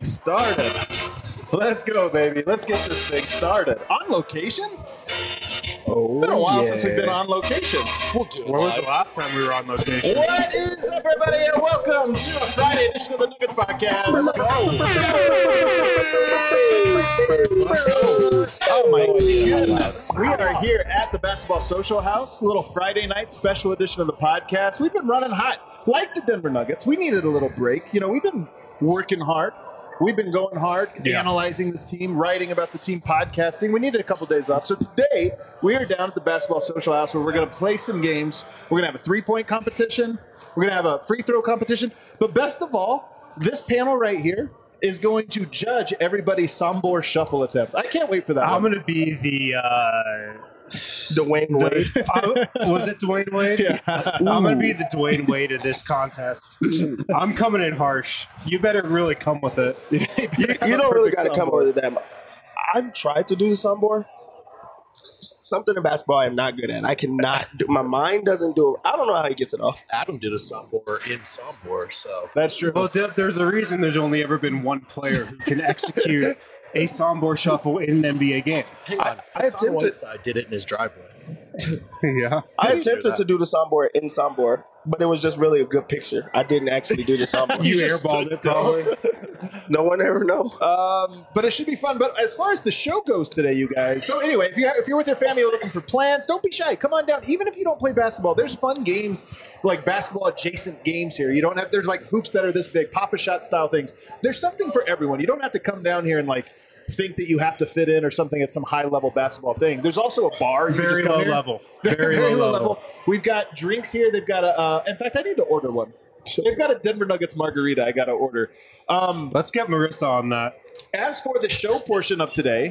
started. Let's go, baby. Let's get this thing started. On location? It's been a while since we've been on location. We'll do it. When was the last time we were on location? What is up, everybody, and welcome to a Friday edition of the Nuggets Podcast. Let's go. Oh, my goodness. We are here at the Basketball Social House, little Friday night special edition of the podcast. We've been running hot. Like the Denver Nuggets, we needed a little break. You know, we've been working hard. We've been going hard, analyzing this team, writing about the team, podcasting. We needed a couple days off. So today, we are down at the Basketball Social House where we're going to play some games. We're going to have a three-point competition. We're going to have a free throw competition. But best of all, this panel right here is going to judge everybody's Sombor shuffle attempt. I can't wait for that. I'm going to be the Dwayne Wade. was it Dwayne Wade? Yeah. I'm going to be the Dwayne Wade of this contest. I'm coming in harsh. You better really come with it. You don't really got to come over to that. I've tried to do the Sombor. Something in basketball I'm not good at. I cannot do. My mind doesn't do it. I don't know how he gets it off. Adam did a Sombor in Sombor, so That's true. Well, Dip, there's a reason there's only ever been one player who can execute a Sombor shuffle in an NBA game. hang on. I Hassan attempted- Whiteside did it in his driveway. Yeah. I Did you do attempted that? to do the Sombor in Sombor, but it was just really a good picture. I didn't actually do the Sombor. You just airballed stood it, probably. No one ever know. But it should be fun. But as far as the show goes today, you guys. So anyway, if you're with your family looking for plans, don't be shy. Come on down. Even if you don't play basketball, there's fun games like basketball adjacent games here. You don't have. There's like hoops that are this big, Pop-A-Shot style things. There's something for everyone. You don't have to come down here and like think that you have to fit in or something at some high level basketball thing. There's also a bar. You can Very just come low here. level. Very low level. We've got drinks here. They've got a. In fact, I need to order one. They've got a Denver Nuggets margarita. I got to order. Let's get Marissa on that. As for the show portion of today,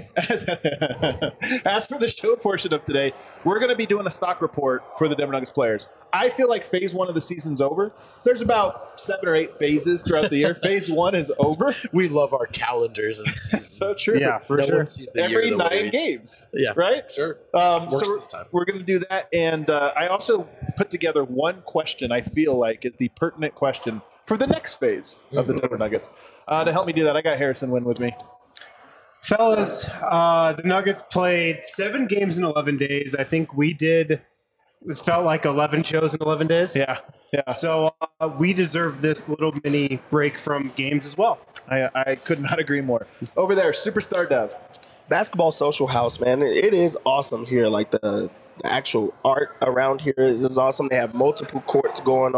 we're going to be doing a stock report for the Denver Nuggets players. I feel like phase one of the season's over. There's about 7 or 8 phases throughout the year. Phase one is over. We love our calendars and seasons. So true. Yeah, for no sure. one sees the Every year the way 9 we- games. Yeah, Right? Sure. So this time. we're going to do that. And I also put together one question I feel like is the pertinent question for the next phase of the Denver Nuggets. To help me do that, I got Harrison Wynn with me. Fellas, the Nuggets played 7 games in 11 days. I think we did. It felt like 11 shows in 11 days. Yeah. So we deserve this little mini break from games as well. I could not agree more. Over there, Superstar Dev. Basketball Social House, man. It is awesome here. Like the actual art around here is awesome. They have multiple courts going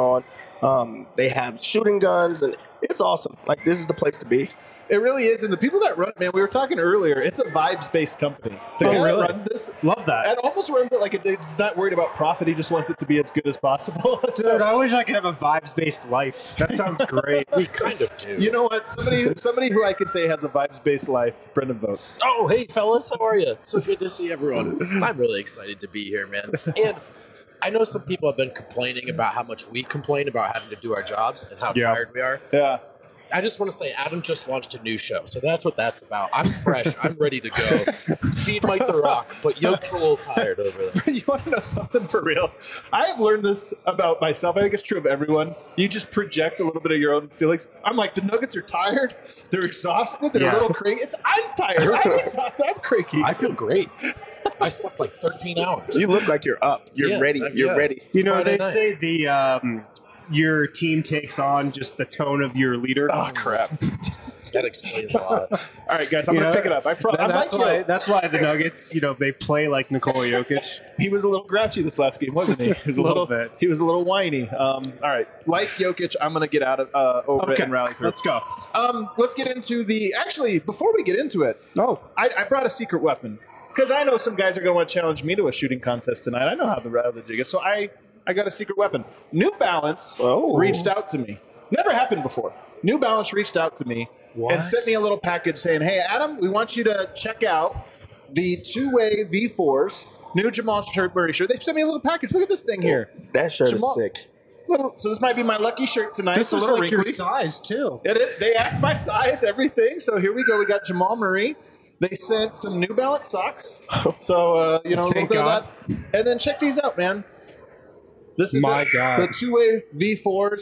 on. They have shooting guns, and it's awesome. Like, this is the place to be. It really is. And the people that run it, man, we were talking earlier, it's a vibes-based company. The guy really? that runs this, Love that. and almost runs it like he's not worried about profit. He just wants it to be as good as possible. Dude, So, I wish I could have a vibes-based life. That sounds great. We kind of do. you know what? Somebody who I could say has a vibes-based life, Brendan Vogt. Oh, hey, fellas. How are you? So good to see everyone. I'm really excited to be here, man. And I know some people have been complaining about how much we complain about having to do our jobs and how Yeah. tired we are. Yeah. I just want to say Adam just launched a new show, so that's what that's about. I'm fresh. I'm ready to go. Feed Mike the Rock, but Yoke's a little tired over there. You want to know something for real? I have learned this about myself. I think it's true of everyone. You just project a little bit of your own feelings. I'm like, the Nuggets are tired. They're exhausted. They're a Yeah. little cranky. I'm tired. I'm exhausted. I'm cranky. I feel great. I slept like 13 hours. You look like you're up. You're Yeah, ready. You're yeah. ready. You know, Friday they night. say the your team takes on just the tone of your leader. Oh, crap. That explains a lot. All right, guys, I'm You going to know, pick it up. I'm That's like why. you. That's why the Nuggets, they play like Nikola Jokic. He was a little grouchy this last game, wasn't he? He was a Little bit. He was a little whiny. All right, like Jokic, I'm going to get out of over it and rally through. Let's go. Let's get into the. Actually, before we get into it, I brought a secret weapon because I know some guys are going to want to challenge me to a shooting contest tonight. I know how the jig is, so I got a secret weapon. New Balance reached out to me. Never happened before. New Balance reached out to me and sent me a little package saying, "Hey, Adam, we want you to check out the two-way V4s, new Jamal Murray shirt." They sent me a little package. Look at this thing here. That shirt Jamal- is sick. So this might be my lucky shirt tonight. This It's a is little like your wrinkly. size too. It is. They asked my size, everything. So here we go. We got Jamal Murray. They sent some New Balance socks. So, a little Thank bit God. of that. And then check these out, man. This is My it. God. The two-way V4s.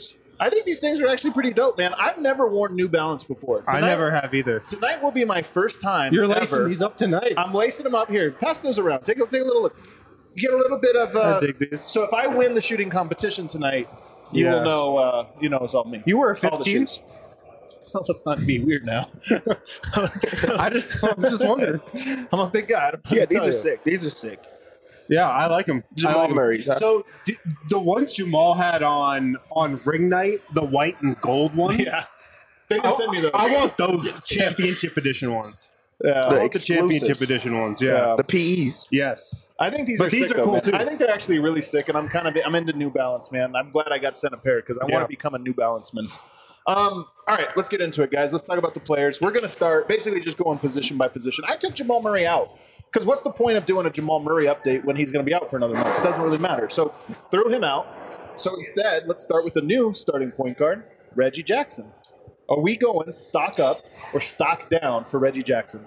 I think these things are actually pretty dope, man. I've never worn New Balance before. I never have either. Tonight will be my first time. You're lacing ever. these up tonight. I'm lacing them up here. Pass those around. Take a little look. You get a little bit of. I dig these. So if I win the shooting competition tonight, you Yeah. will know. You know it's all me. You were a All the 15? shoes. Well, let's not be weird now. I'm just wondering. I'm a big guy. Yeah, these are sick. These are sick. Yeah, I like them. Jamal Murray's, huh? So the ones Jamal had on ring night, the white and gold ones. Yeah. They didn't send me those. I want those championship edition ones. Yeah. I want the exclusives. championship edition ones. Yeah. The PEs. Yes. I think these But are these sick, are though, cool, man. too. I think they're actually really sick, and I'm into New Balance, man. I'm glad I got sent a pair because I want Yeah. to become a New Balance man. All right, let's get into it, guys. Let's talk about the players. We're going to start basically just going position by position. I took Jamal Murray out because what's the point of doing a Jamal Murray update when he's going to be out for another month? It doesn't really matter. So threw him out. So instead, let's start with the new starting point guard, Reggie Jackson. Are we going stock up or stock down for Reggie Jackson?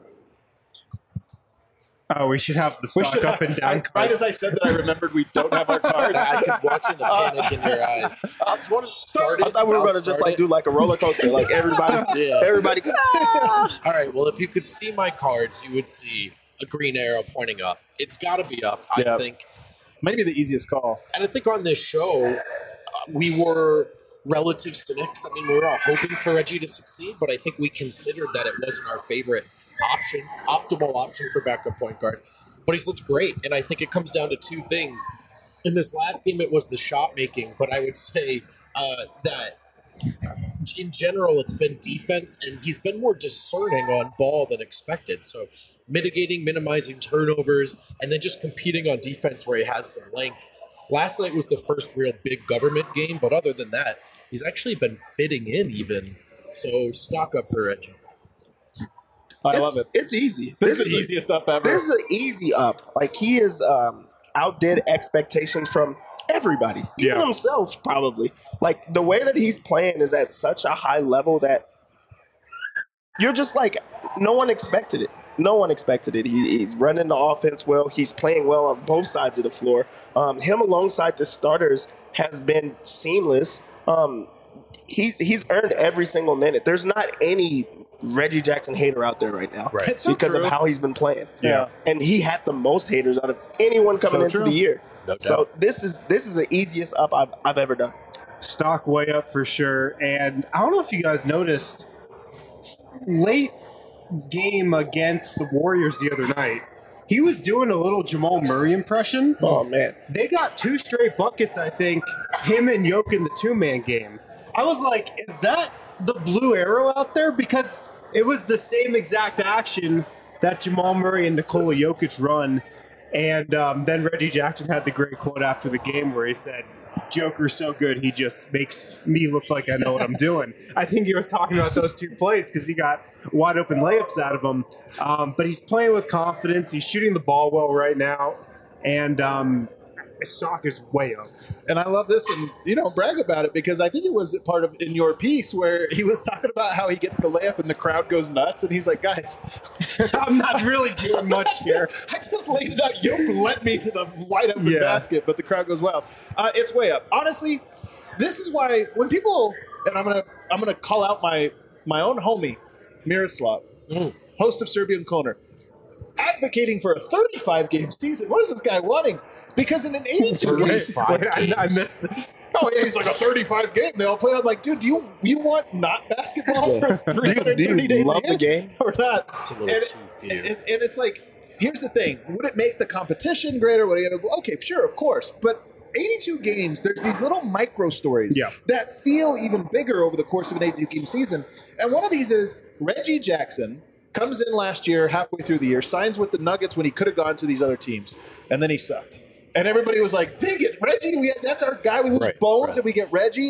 Oh, we should have the We stock should- up and down. Right as I said that, I remembered we don't have our cards. I can watch the panic in your eyes. Do you want to start it? I thought we were I'll going to just start like it. do like a roller coaster, like everybody, Yeah. everybody. All right. Well, if you could see my cards, you would see a green arrow pointing up. It's got to be up, Yeah. I think. Maybe the easiest call. And I think on this show, we were relative cynics. I mean, we were all hoping for Reggie to succeed, but I think we considered that it wasn't our favorite optimal option for backup point guard. But he's looked great, and I think it comes down to two things. In this last game, it was the shot making, but I would say that in general, it's been defense, and he's been more discerning on ball than expected. So minimizing turnovers, and then just competing on defense where he has some length. Last night was the first real big government game, but other than that, he's actually been fitting in even. So stock up for Reggie. I love it. It's easy. This is the easiest up ever. This is an easy up. Like he is outdid expectations from everybody, even Yeah. himself probably. Like the way that he's playing is at such a high level that you're just like, no one expected it. No one expected it. He's running the offense well. He's playing well on both sides of the floor. Him alongside the starters has been seamless. He's earned every single minute. There's not any Reggie Jackson hater out there right now, Right. It's so because true. of how he's been playing. Yeah. And he had the most haters out of anyone coming So into true. the year. No doubt. So this is the easiest up I've ever done. Stock way up for sure. And I don't know if you guys noticed, late game against the Warriors the other night, he was doing a little Jamal Murray impression. Oh man, They got 2 straight buckets, I think, him and Jokic in the 2-man game. I was like, is that the blue arrow out there? Because it was the same exact action that Jamal Murray and Nikola Jokic run. And then Reggie Jackson had the great quote after the game where he said, Joker's so good, he just makes me look like I know what I'm doing. I think he was talking about those 2 plays because he got wide open layups out of them. But he's playing with confidence. He's shooting the ball well right now. And his stock is way up. And I love this, and brag about it because I think it was part of in your piece where he was talking about how he gets the layup and the crowd goes nuts, and he's like, "Guys, I'm not really doing much here." I just laid it out. You led me to the wide open Yeah. basket, but the crowd goes wild. It's way up. Honestly, this is why when people and I'm gonna call out my own homie Miroslav, host of Serbian Corner, advocating for a 35-game season. What is this guy wanting? Because in an 82 game, 35 Wait, I games. missed this. oh yeah, he's like a 35 game. They all play. I'm like, dude, do you want not basketball for 330 do you days love a year the game? or not? It's a little too few. And it's like, here's the thing: would it make the competition greater? Okay, sure, of course, but 82 games. There's these little micro stories Yeah. that feel even bigger over the course of an 82 game season. And one of these is Reggie Jackson comes in last year, halfway through the year, signs with the Nuggets when he could have gone to these other teams, and then he sucked. And everybody was like, "Dig it, Reggie! That's our guy. We lose Right, Bones, right. and we get Reggie."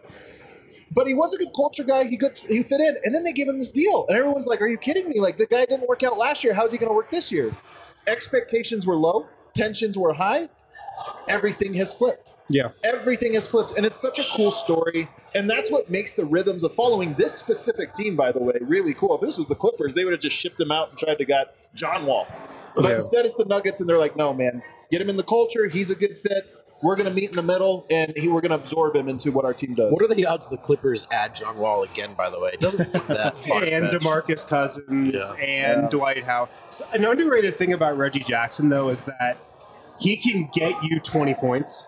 But he was a good culture guy. He fit in, and then they give him this deal, and everyone's like, "Are you kidding me? Like the guy didn't work out last year. How's he going to work this year?" Expectations were low, tensions were high. Everything has flipped. Yeah. Everything has flipped, and it's such a cool story. And that's what makes the rhythms of following this specific team, by the way, really cool. If this was the Clippers, they would have just shipped him out and tried to get John Wall. But Yeah. instead, it's the Nuggets, and they're like, "No, man, get him in the culture. He's a good fit. we're going to meet in the middle, and we're going to absorb him into what our team does. What are the odds the Clippers add John Wall again, by the way? It doesn't seem that far. And DeMarcus Cousins and Dwight Howard. So an underrated thing about Reggie Jackson, though, is that he can get you 20 points,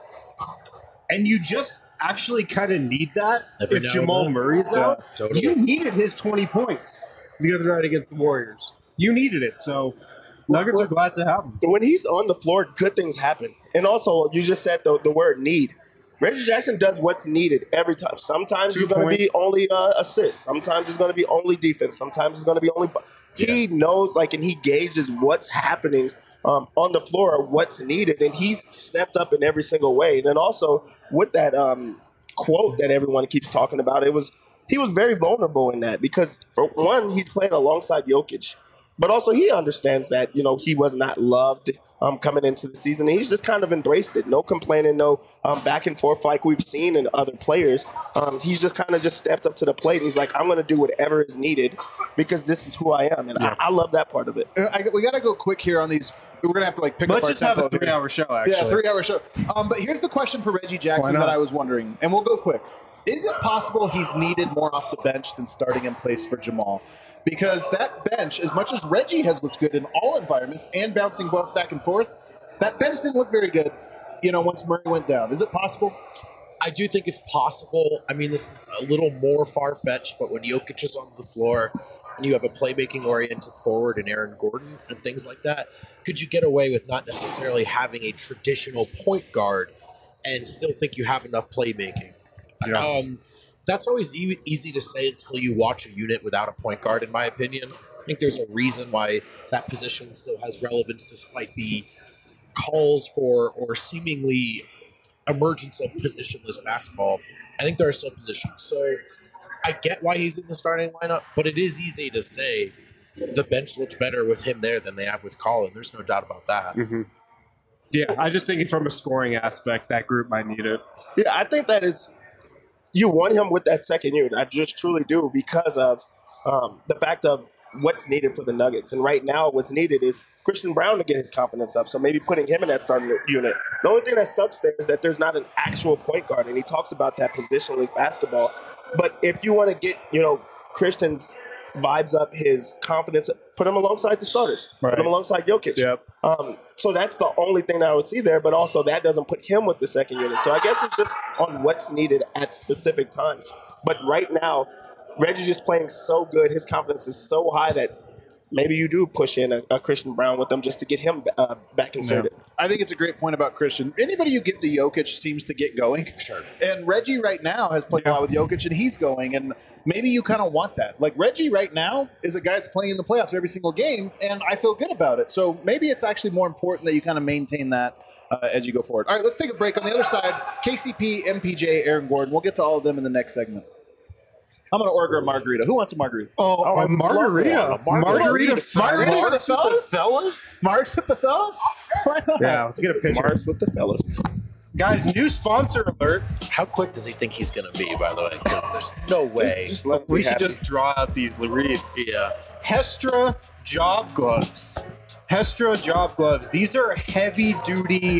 and you just actually kind of need that Every if now Jamal and then. Murray's out. Totally. You needed his 20 points the other night against the Warriors. You needed it, so Nuggets are glad to have him. When he's on the floor, good things happen. And also, you just said the word need. Reggie Jackson does what's needed every time. Sometimes it's going to be only assists. Sometimes it's going to be only defense. Sometimes it's going to be only. He knows, and he gauges what's happening on the floor, what's needed, and he's stepped up in every single way. And then also with that quote that everyone keeps talking about, he was very vulnerable in that because for one, he's playing alongside Jokic, but also he understands that he was not loved coming into the season. And he's just kind of embraced it. No complaining, no back and forth like we've seen in other players. He's just kind of just stepped up to the plate. And he's like, I'm going to do whatever is needed because this is who I am. And I love that part of it. We got to go quick here on these. We're going to have to pick up our tempo. Let's just have a 3-hour show, actually. Yeah, 3-hour show. But here's the question for Reggie Jackson that I was wondering, and we'll go quick. Is it possible he's needed more off the bench than starting in place for Jamal? Because that bench, as much as Reggie has looked good in all environments and bouncing both back and forth, that bench didn't look very good, once Murray went down. Is it possible? I do think it's possible. I mean, this is a little more far-fetched, but when Jokic is on the floor and you have a playmaking-oriented forward in Aaron Gordon and things like that, could you get away with not necessarily having a traditional point guard and still think you have enough playmaking? Yeah. That's always easy to say until you watch a unit without a point guard, in my opinion. I think there's a reason why that position still has relevance despite the calls for or seemingly emergence of positionless basketball. I think there are still positions. So I get why he's in the starting lineup, but it is easy to say the bench looks better with him there than they have with Colin. There's no doubt about that. Mm-hmm. Yeah, I just think from a scoring aspect, that group might need it. Yeah, I think that is... You want him with that second unit. I just truly do because of the fact of what's needed for the Nuggets. And right now what's needed is Christian Brown to get his confidence up. So maybe putting him in that starting unit. The only thing that sucks there is that there's not an actual point guard. And he talks about that positionless basketball. But if you want to get, Christian's vibes up, his confidence, put him alongside the starters. Right. Put him alongside Jokic. Yep. So that's the only thing that I would see there, but also that doesn't put him with the second unit. So I guess it's just on what's needed at specific times. But right now, Reggie's just playing so good. His confidence is so high that maybe you do push in a Christian Brown with them just to get him back inserted. Yeah. I think it's a great point about Christian. Anybody you give to Jokic seems to get going. Sure. And Reggie right now has played a lot with Jokic, and he's going. And maybe you kind of want that. Like Reggie right now is a guy that's playing in the playoffs every single game, and I feel good about it. So maybe it's actually more important that you kind of maintain that as you go forward. All right, let's take a break. On the other side, KCP, MPJ, Aaron Gordon. We'll get to all of them in the next segment. I'm going to order a margarita. Who wants a margarita? A margarita. Margarita for the fellas? Marks with the fellas? Yeah, let's get a picture. Marks with the fellas. Guys, new sponsor alert. How quick does he think he's going to be, by the way? Because there's no way. Just let We should just draw out these reads. Yeah. Hestra Job Gloves. Hestra Job Gloves. These are heavy-duty,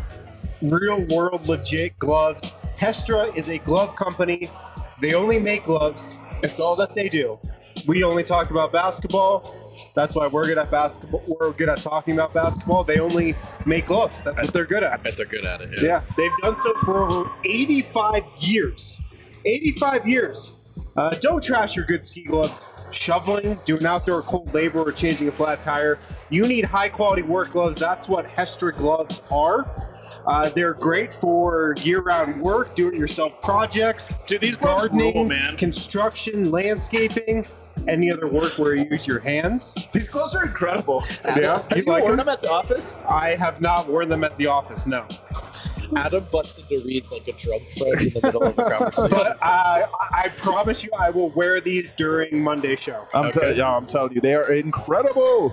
real-world, legit gloves. Hestra is a glove company. They only make gloves. It's all that they do. We only talk about basketball. That's why we're good at basketball. We're good at talking about basketball. They only make gloves. That's what they're good at. I bet they're good at it. Yeah, they've done so for over 85 years. 85 years. Don't trash your good ski gloves. Shoveling, doing outdoor cold labor, or changing a flat tire. You need high-quality work gloves. That's what Hestra gloves are. They're great for year-round work, do-it-yourself projects, Dude, these gloves gardening, rule, man. construction, landscaping, any other work where you use your hands. These gloves are incredible. Yeah, Have you worn them at the office? I have not worn them at the office, no. Adam butts into Reed's like a drunk friend in the middle of a conversation. But I promise you I will wear these during Monday's show. I'm telling you, they are incredible.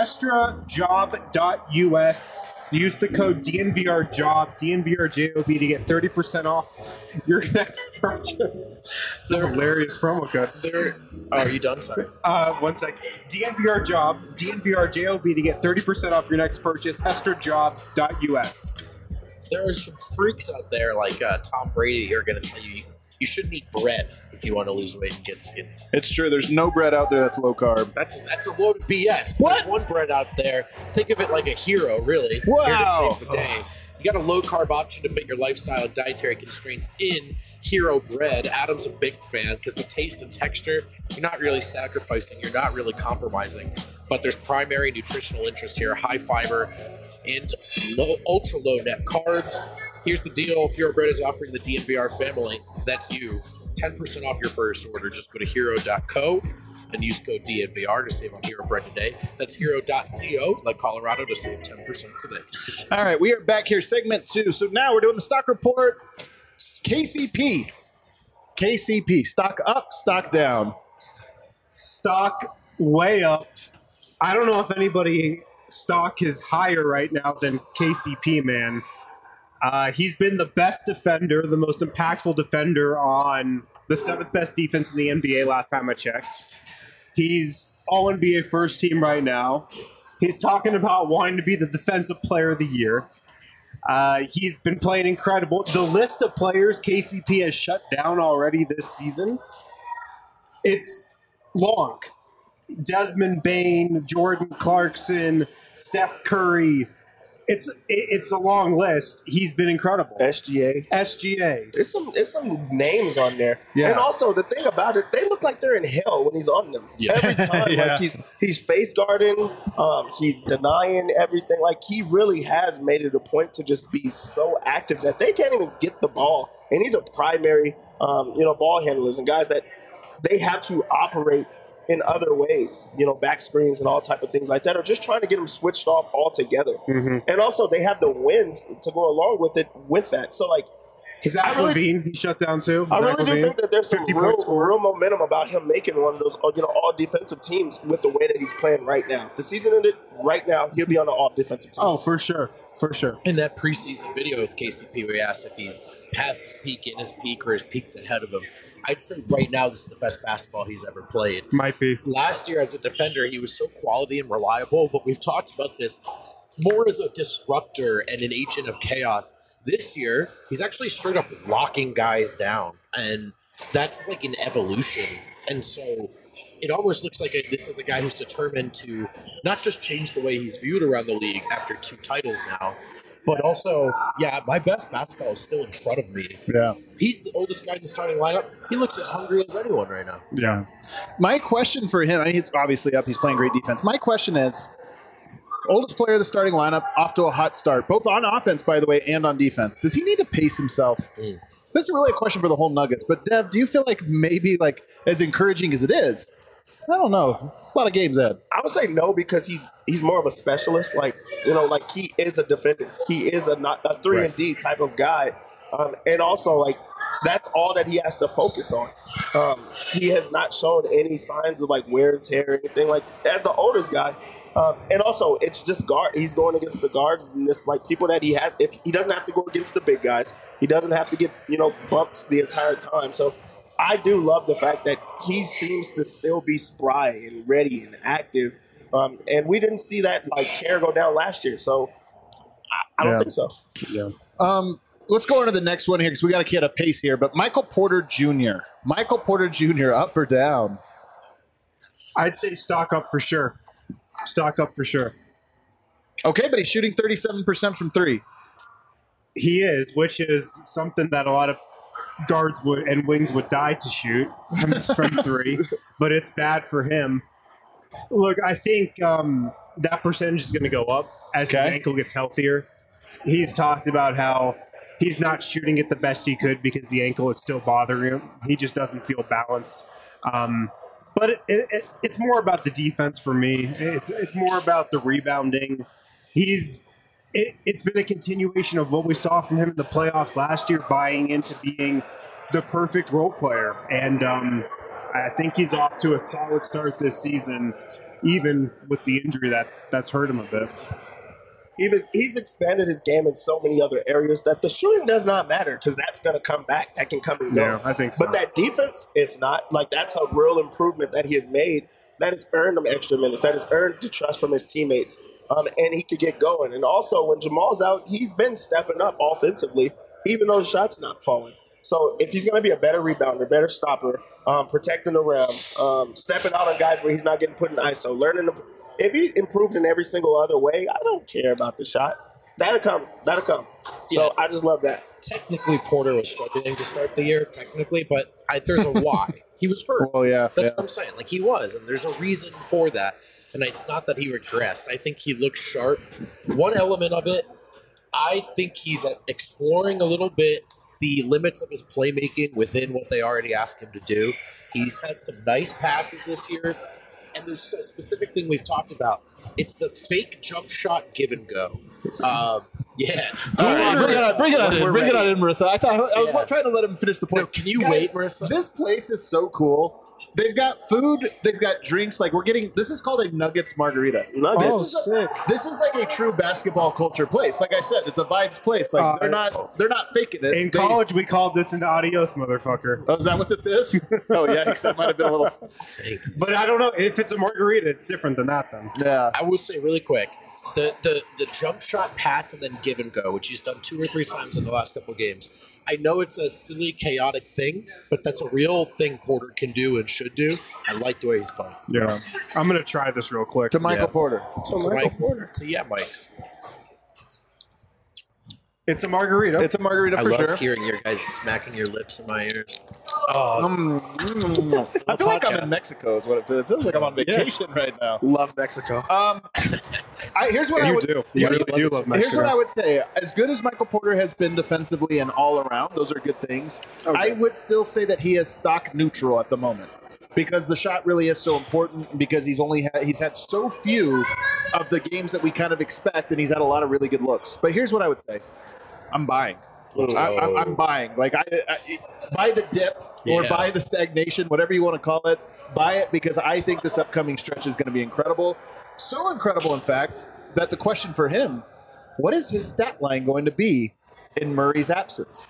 HestraJob.us. Use the code DNVRJOB, DNVRJOB to get 30% off your next purchase. It's a hilarious promo code. Are you done? Sorry. 1 sec. DNVRJOB, DNVRJOB to get 30% off your next purchase. HestraJob.us. there are some freaks out there like Tom Brady who are going to tell you you shouldn't eat bread if you want to lose weight and get skinny. It's true. There's no bread out there that's low carb. That's a load of BS. What? There's one bread out there. Think of it like a hero, really. Wow. Here to save the day. You got a low carb option to fit your lifestyle and dietary constraints in Hero Bread. Adam's a big fan because the taste and texture, you're not really sacrificing, you're not really compromising. But there's primary nutritional interest here, high fiber and ultra low net carbs. Here's the deal. Hero Bread is offering the DNVR family, that's you, 10% off your first order. Just go to hero.co and use code DNVR to save on Hero Bread today. That's hero.co, like Colorado, to save 10% today. All right, we are back here, segment 2. So now we're doing the stock report. KCP. Stock up, stock down. Stock way up. I don't know if anybody stock is higher right now than KCP, man. He's been the best defender, the most impactful defender on the 7th best defense in the NBA last time I checked. He's all-NBA first team right now. He's talking about wanting to be the defensive player of the year. He's been playing incredible. The list of players KCP has shut down already this season, it's long. Desmond Bain, Jordan Clarkson, Steph Curry. It's a long list. He's been incredible. SGA. There's some names on there. Yeah. And also the thing about it, they look like they're in hell when he's on them. Yeah. Every time. Yeah. Like he's face guarding, he's denying everything. Like he really has made it a point to just be so active that they can't even get the ball. And he's a primary ball handlers and guys that they have to operate in other ways, back screens and all type of things like that, or just trying to get them switched off altogether. Mm-hmm. And also they have the wins to go along with it with that. So like Zach LaVine, he shut down too. I Zach really do LaVine, think that there's some 50-point scorer. real momentum about him making one of those all defensive teams with the way that he's playing right now. If the season ended right now, he'll be on the all defensive team. Oh, for sure. For sure. In that preseason video with KCP, we asked if he's past his peak, in his peak, or his peak's ahead of him. I'd say right now this is the best basketball he's ever played. Might be. Last year as a defender, he was so quality and reliable, but we've talked about this more as a disruptor and an agent of chaos. This year, he's actually straight up locking guys down, and that's like an evolution. And so it almost looks like this is a guy who's determined to not just change the way he's viewed around the league after 2 titles now, but also, my best basketball is still in front of me. Yeah. He's the oldest guy in the starting lineup. He looks as hungry as anyone right now. Yeah. My question for him, he's obviously up. He's playing great defense. My question is, oldest player of the starting lineup, off to a hot start, both on offense, by the way, and on defense. Does he need to pace himself? This is really a question for the whole Nuggets. But, Dev, do you feel like maybe as encouraging as it is, I don't know, a lot of games, Ed. I would say no because he's more of a specialist. Like he is a defender. He is a 3-and-D type of guy, and also that's all that he has to focus on. He has not shown any signs of wear and tear or anything as the oldest guy. And also, it's just guard. He's going against the guards and this people that he has. If he doesn't have to go against the big guys, he doesn't have to get bumped the entire time. So I do love the fact that he seems to still be spry and ready and active. And we didn't see that tear go down last year. So I don't think so. Yeah. Let's go on to the next one here because we got to keep a pace here. But Michael Porter Jr. Up or down? I'd say stock up for sure. Stock up for sure. Okay, but he's shooting 37% from 3. He is, which is something that a lot of guards and wings would die to shoot from 3, but it's bad for him. Look, I think that percentage is going to go up as his ankle gets healthier. He's talked about how he's not shooting it the best he could because the ankle is still bothering him. He just doesn't feel balanced. But it's more about the defense for me. It's more about the rebounding. It's been a continuation of what we saw from him in the playoffs last year, buying into being the perfect role player. And I think he's off to a solid start this season, even with the injury that's hurt him a bit. He's expanded his game in so many other areas that the shooting does not matter because that's going to come back. That can come and go. Yeah, I think so. But that defense is not. That's a real improvement that he has made that has earned him extra minutes, that has earned the trust from his teammates. and he could get going. And also, when Jamal's out, he's been stepping up offensively, even though the shot's not falling. So if he's going to be a better rebounder, better stopper, protecting the rim, stepping out on guys where he's not getting put in ISO, if he improved in every single other way, I don't care about the shot. That'll come. So I just love that. Technically, Porter was struggling to start the year, technically, but there's a why. He was hurt. Well, yeah. That's what I'm saying. Like, he was, and there's a reason for that. And it's not that he regressed. I think he looks sharp. One element of it, I think he's exploring a little bit the limits of his playmaking within what they already asked him to do. He's had some nice passes this year, and there's a specific thing we've talked about. It's the fake jump shot give and go. Yeah. All right, bring it on in, Marissa. I was Yeah. trying to let him finish the point. No, can you Guys, wait, Marissa? This place is so cool. They've got food. They've got drinks. Like this is called a Nuggets margarita. Nuggets. This is like a true basketball culture place. Like I said, it's a vibes place. Like they're not faking it. In college, we called this an adios, motherfucker. Oh, is that what this is? Oh, yikes. That might have been a little. But I don't know if it's a margarita. It's different than that, then. Yeah. I will say really quick, the jump shot pass and then give and go, which he's done 2 or 3 times in the last couple of games. I know it's a silly, chaotic thing, but that's a real thing Porter can do and should do. I like the way he's playing. Yeah. I'm going to try this real quick. To Michael Porter. Mike's. It's a margarita. It's a margarita I for love sure. hearing your guys smacking your lips in my ears. I feel like I'm in Mexico. Is what it feels like. I'm on vacation right now. Love Mexico. Here's what I would You Why do really you do love love it? Mexico. Here's what I would say. As good as Michael Porter has been defensively and all around, those are good things. I would still say that he is stock neutral at the moment because the shot really is so important. Because he's had so few of the games that we kind of expect, and he's had a lot of really good looks. But here's what I would say: I'm buying. I'm buying. Like I buy the dip or buy the stagnation, whatever you want to call it. Buy it because I think this upcoming stretch is going to be incredible. So incredible, in fact, that the question for him: what is his stat line going to be in Murray's absence?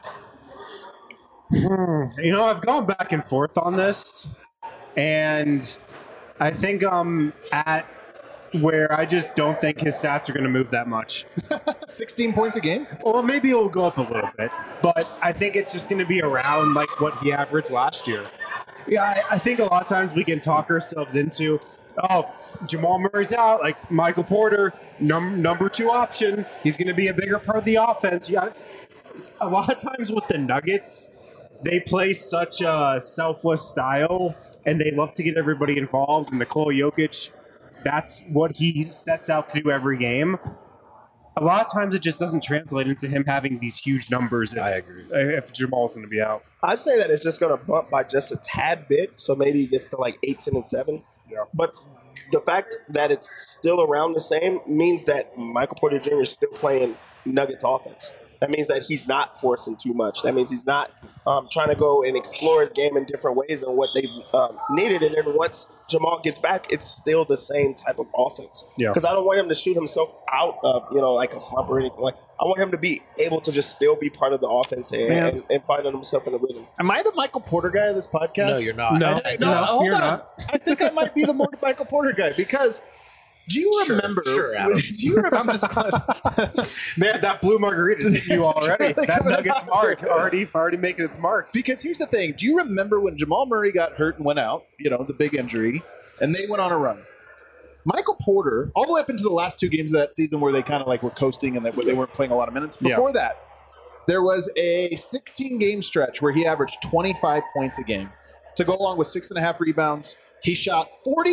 You know, I've gone back and forth on this, and I think I'm at where I just don't think his stats are going to move that much. 16 points a game? Or maybe it'll go up a little bit, but I think it's just going to be around like what he averaged last year. Yeah, I think a lot of times we can talk ourselves into, oh, Jamal Murray's out, like Michael Porter, number 2 option. He's going to be a bigger part of the offense. Yeah, a lot of times with the Nuggets, they play such a selfless style, and they love to get everybody involved. And Nikola Jokic, that's what he sets out to do every game. A lot of times it just doesn't translate into him having these huge numbers. I agree. If Jamal's going to be out. I'd say that it's just going to bump by just a tad bit, so maybe it gets to like 8, 10, and 7. Yeah. But the fact that it's still around the same means that Michael Porter Jr. is still playing Nuggets offense. That means that he's not forcing too much. That means he's not trying to go and explore his game in different ways than what they've needed. And then once Jamal gets back, it's still the same type of offense. Yeah. Because I don't want him to shoot himself out of, like a slump or anything. Like, I want him to be able to just still be part of the offense and finding himself in the rhythm. Am I the Michael Porter guy of this podcast? No, you're not. No. Hold you're on. not. I think I might be the more Michael Porter guy because do you remember? Sure, Adam. Do you remember? I'm just Man, that blue margarita's hitting you already. really That coming Nuggets out. mark already making its mark. because here's the thing. Do you remember when Jamal Murray got hurt and went out? The big injury, and they went on a run. Michael Porter, all the way up into the last 2 games of that season where they kind of like were coasting and they weren't playing a lot of minutes. Before that, there was a 16-game stretch where he averaged 25 points a game to go along with 6.5 rebounds. He shot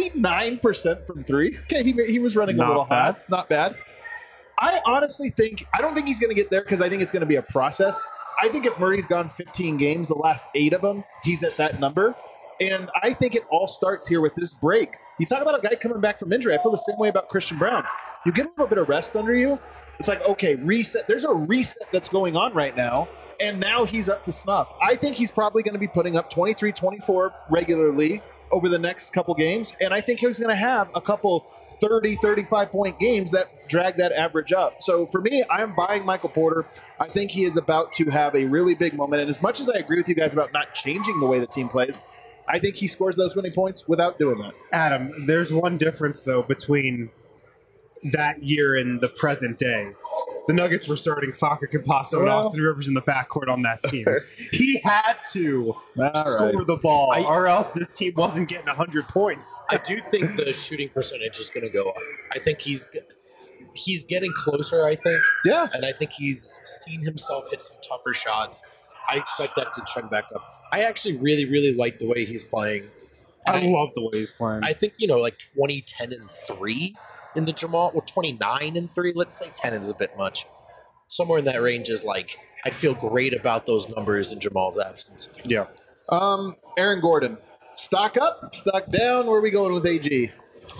49% from 3. Okay, he was running a Not little bad. hot. Not bad. I honestly I don't think he's going to get there because I think it's going to be a process. I think if Murray's gone 15 games, the last 8 of them, he's at that number. And I think it all starts here with this break. You talk about a guy coming back from injury. I feel the same way about Christian Brown. You get a little bit of rest under you. It's like, okay, reset. There's a reset that's going on right now. And now he's up to snuff. I think he's probably going to be putting up 23, 24 regularly over the next couple games. And I think he's going to have a couple 30, 35-point games that drag that average up. So for me, I'm buying Michael Porter. I think he is about to have a really big moment. And as much as I agree with you guys about not changing the way the team plays, I think he scores those winning points without doing that. Adam, there's one difference though between that year in the present day, the Nuggets were starting Facu Campasso and Austin Rivers in the backcourt on that team. He had to score the ball, or else this team wasn't getting 100 points. I do think the shooting percentage is going to go up. I think he's getting closer, I think. Yeah. And I think he's seen himself hit some tougher shots. I expect that to trend back up. I actually really, really like the way he's playing. I love the way he's playing. I think, like 20, 10, and 3 in the Jamal, 29 and 3, let's say 10 is a bit much. Somewhere in that range is like, I'd feel great about those numbers in Jamal's absence. Yeah. Aaron Gordon, stock up, stock down. Where are we going with AG?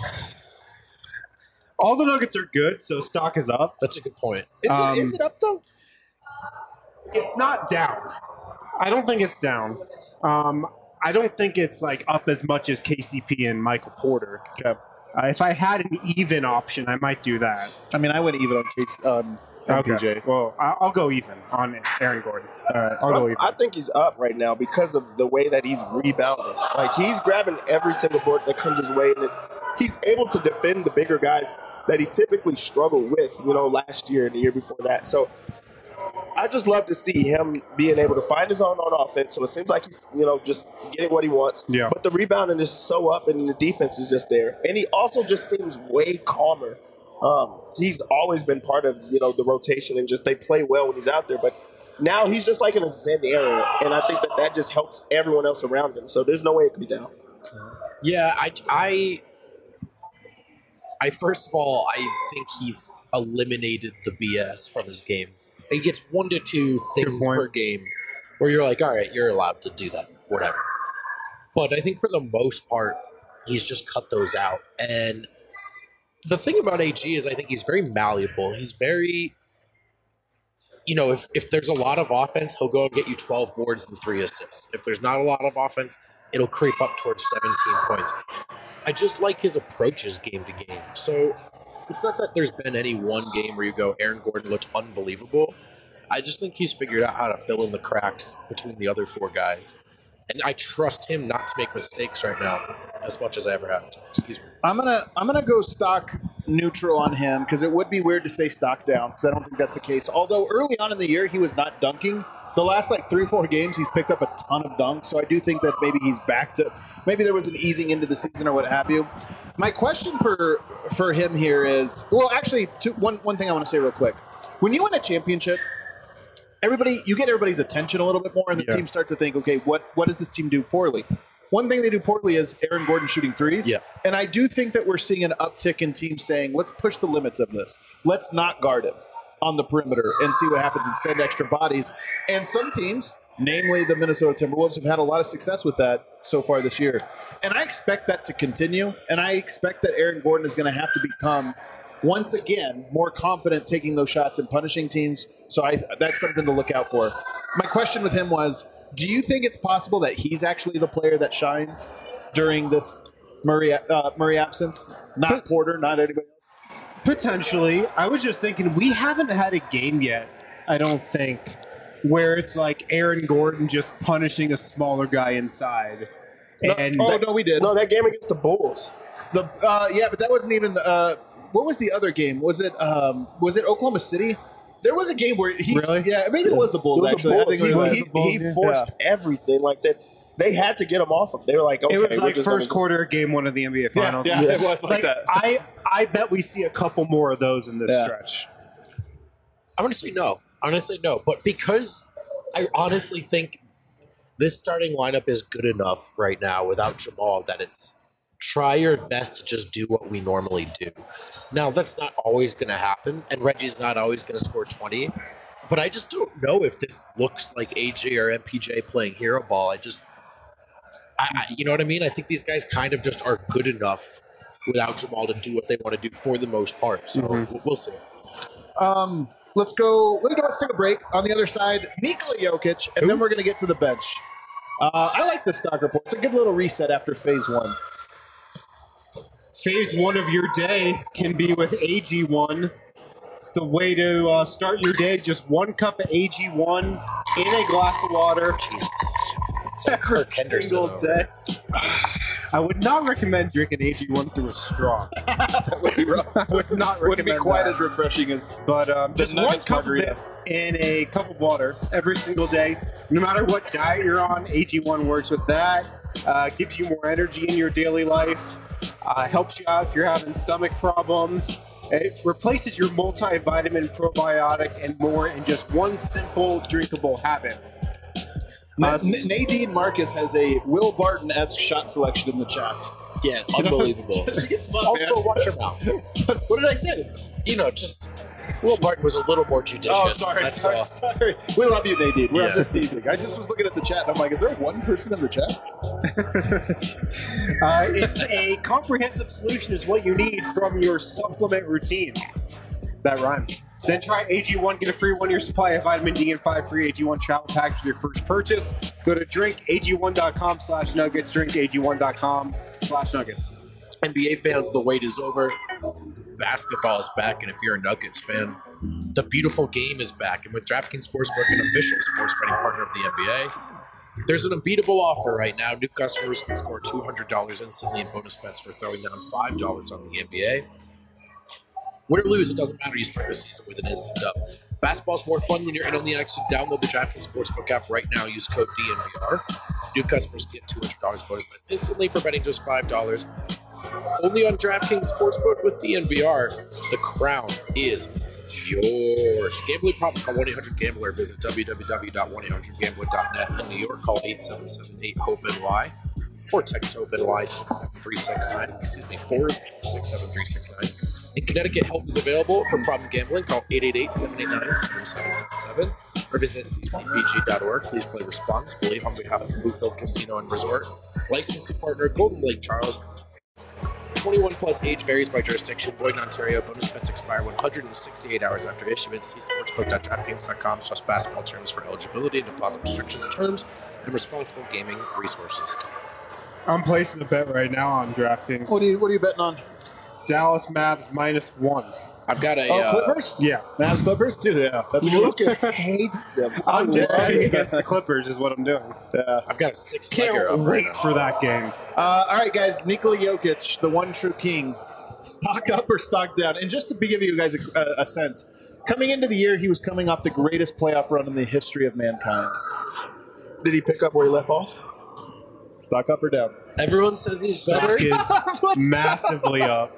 All the Nuggets are good, so stock is up. That's a good point. Is it up though? It's not down. I don't think it's down. I don't think it's like up as much as KCP and Michael Porter. Okay. If I had an even option, I might do that. I mean, I went even on MPJ. Well, I'll go even on Aaron Gordon. All right. I'll go even. I think he's up right now because of the way that he's rebounding. Like, he's grabbing every single board that comes his way, and he's able to defend the bigger guys that he typically struggled with, last year and the year before that. So I just love to see him being able to find his own on offense. So it seems like he's, just getting what he wants. Yeah. But the rebounding is so up, and the defense is just there. And he also just seems way calmer. He's always been part of, the rotation, and just they play well when he's out there. But now he's just like in a Zen era, and I think that just helps everyone else around him. So there's no way it could be down. Yeah, I first of all, I think he's eliminated the BS from his game. He gets 1 to 2 things per game where you're like, all right, you're allowed to do that, whatever. But I think for the most part, he's just cut those out. And the thing about AG is I think he's very malleable. He's very, if there's a lot of offense, he'll go and get you 12 boards and 3 assists. If there's not a lot of offense, it'll creep up towards 17 points. I just like his approaches game to game. So it's not that there's been any one game where you go, Aaron Gordon looked unbelievable. I just think he's figured out how to fill in the cracks between the other 4 guys. And I trust him not to make mistakes right now as much as I ever have. Excuse me. I'm gonna go stock neutral on him because it would be weird to say stock down because I don't think that's the case. Although early on in the year he was not dunking. The last 3 or 4 games he's picked up a ton of dunks, so I do think that maybe he's back to maybe there was an easing into the season or what have you. My question for him here is actually one thing I want to say real quick. When you win a championship, you get everybody's attention a little bit more, and the team start to think, okay, what does this team do poorly? One thing they do poorly is Aaron Gordon shooting threes. Yeah. And I do think that we're seeing an uptick in teams saying, let's push the limits of this. Let's not guard him on the perimeter and see what happens and send extra bodies. And some teams, namely the Minnesota Timberwolves, have had a lot of success with that so far this year. And I expect that to continue. And I expect that Aaron Gordon is going to have to become, once again, more confident taking those shots and punishing teams. So that's something to look out for. My question with him was, do you think it's possible that he's actually the player that shines during this Murray absence? Not Porter, not anybody else? Potentially. I was just thinking, we haven't had a game yet, I don't think, where it's like Aaron Gordon just punishing a smaller guy inside. No, we did. No, that game against the Bulls. But that wasn't even what was the other game? Was it Oklahoma City? There was a game where really? Yeah, maybe it was the Bulls, actually. Bulls. I think he forced everything like that. They had to get him off him. They were like, okay. It was like first quarter, game 1 of the NBA Finals. Yeah, it was like that. I bet we see a couple more of those in this stretch. I'm going to say no. But because I honestly think this starting lineup is good enough right now without Jamal that it's try your best to just do what we normally do. Now, that's not always going to happen, and Reggie's not always going to score 20. But I just don't know if this looks like AJ or MPJ playing hero ball. You know what I mean? I think these guys kind of just are good enough without Jamal to do what they want to do for the most part. So we'll see. Let's take a break. On the other side, Nikola Jokic, and then we're going to get to the bench. I like the stock report. It's a good little reset after phase 1. Phase 1 of your day can be with AG1. It's the way to start your day. Just 1 cup of AG1 in a glass of water. Jesus. Every single day. I would not recommend drinking AG1 through a straw. That would be rough. I would not recommend Wouldn't be quite that. as refreshing as. But just one Nuggets cup margarita. of it in a cup of water every single day. No matter what diet you're on, AG1 works with that. Gives you more energy in your daily life. Helps you out if you're having stomach problems. It replaces your multivitamin, probiotic, and more in just one simple drinkable habit. Nadine Marcus has a Will Barton-esque shot selection in the chat. Yeah, unbelievable. She gets fun, Also, man. watch your mouth. What did I say? Just Will Barton was a little more judicious. Oh, sorry, That's sorry, all. sorry. We love you, Nadine. We're Yeah. just teasing. I just was looking at the chat and I'm like, is there one person in the chat? If a comprehensive solution is what you need from your supplement routine, that rhymes. Then try AG1, get a free 1-year supply of vitamin D and 5 free AG1 travel packs with your first purchase. Go to drinkag1.com/nuggets, drinkag1.com/nuggets. NBA fans, the wait is over. Basketball is back, and if you're a Nuggets fan, the beautiful game is back. And with DraftKings Sportsbook, an official sports betting partner of the NBA, there's an unbeatable offer right now. New customers can score $200 instantly in bonus bets for throwing down $5 on the NBA. Win or lose, it doesn't matter. You start the season with an instant dub. Basketball's more fun when you're in on the action. Download the DraftKings Sportsbook app right now. Use code DNVR. New customers get $200 bonus bets instantly for betting just $5. Only on DraftKings Sportsbook with DNVR. The crown is yours. Gambling problem? Call 1-800-GAMBLER. Visit www.1800gambler.net. In New York, call 877-8-HOPE-NY or text HOPE-NY 67369. Excuse me, 467-369. In Connecticut, help is available for problem gambling. Call 888-789-7777 or visit ccpg.org. Please play responsibly on behalf of Boot Hill Casino and Resort. Licensing partner, Golden Lake Charles. 21 plus, age varies by jurisdiction. Void in Ontario. Bonus bets expire 168 hours after issuance. See sportsbook.draftkings.com/basketball terms for eligibility and deposit restrictions, terms, and responsible gaming resources. I'm placing a bet right now on DraftKings. What are you betting on? Dallas Mavs -1. I've got a Clippers? Yeah. Mavs Clippers? Dude, yeah. That's a good one. Luka hates them. I'm love betting it. against the Clippers is what I'm doing. Yeah. I've got a 6-legger Can't up right wait now. for that game. All right, guys. Nikola Jokic, the one true king. Stock up or stock down? And just to give you guys a sense, coming into the year, he was coming off the greatest playoff run in the history of mankind. Did he pick up where he left off? Stock up or down? Everyone says he's Stock better. is massively up.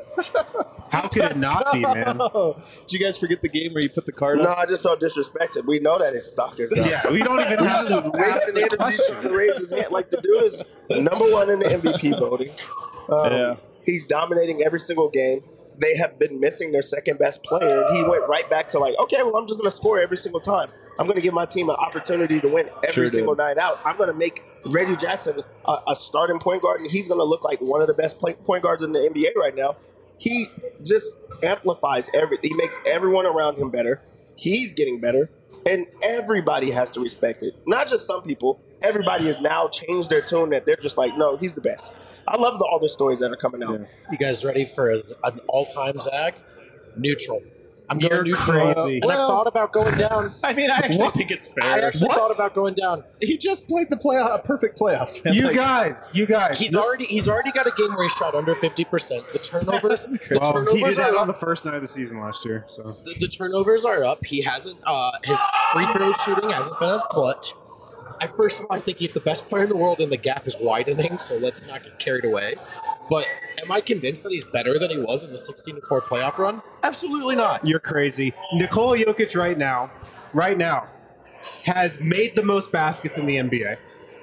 How could it not be, man? Oh, did you guys forget the game where you put the card No, up? I just saw disrespected. We know that his stock is up. Yeah, we don't even have to ask Wasting the energy question. trying to raise his hand. Like, the dude is number one in the MVP voting. Yeah. He's dominating every single game. They have been missing their second best player, and he went right back to like, okay, well, I'm just going to score every single time. I'm going to give my team an opportunity to win every Sure single did. night out. I'm going to make Reggie Jackson a starting point guard, and he's going to look like one of the best point guards in the NBA right now. He just amplifies everything. He makes everyone around him better. He's getting better, and everybody has to respect it. Not just some people. Everybody has now changed their tune that they're just like, no, he's the best. I love all the stories that are coming out. Yeah. You guys ready for an all-time Zag? Neutral. I'm You're going neutral. crazy. And I've thought about going down. I mean, I actually think it's fair. I actually thought about going down. He just played the perfect playoffs. Man. You Like, guys. He's already got a game where he shot under 50%. The turnovers, He did turnovers that are on the up. first night of the season last year. So The turnovers are up. He hasn't. His free throw shooting hasn't been as clutch. First of all, I think he's the best player in the world, and the gap is widening. So let's not get carried away. But am I convinced that he's better than he was in the 16-4 playoff run? Absolutely not. you're crazy. Nikola Jokic right now, has made the most baskets in the NBA.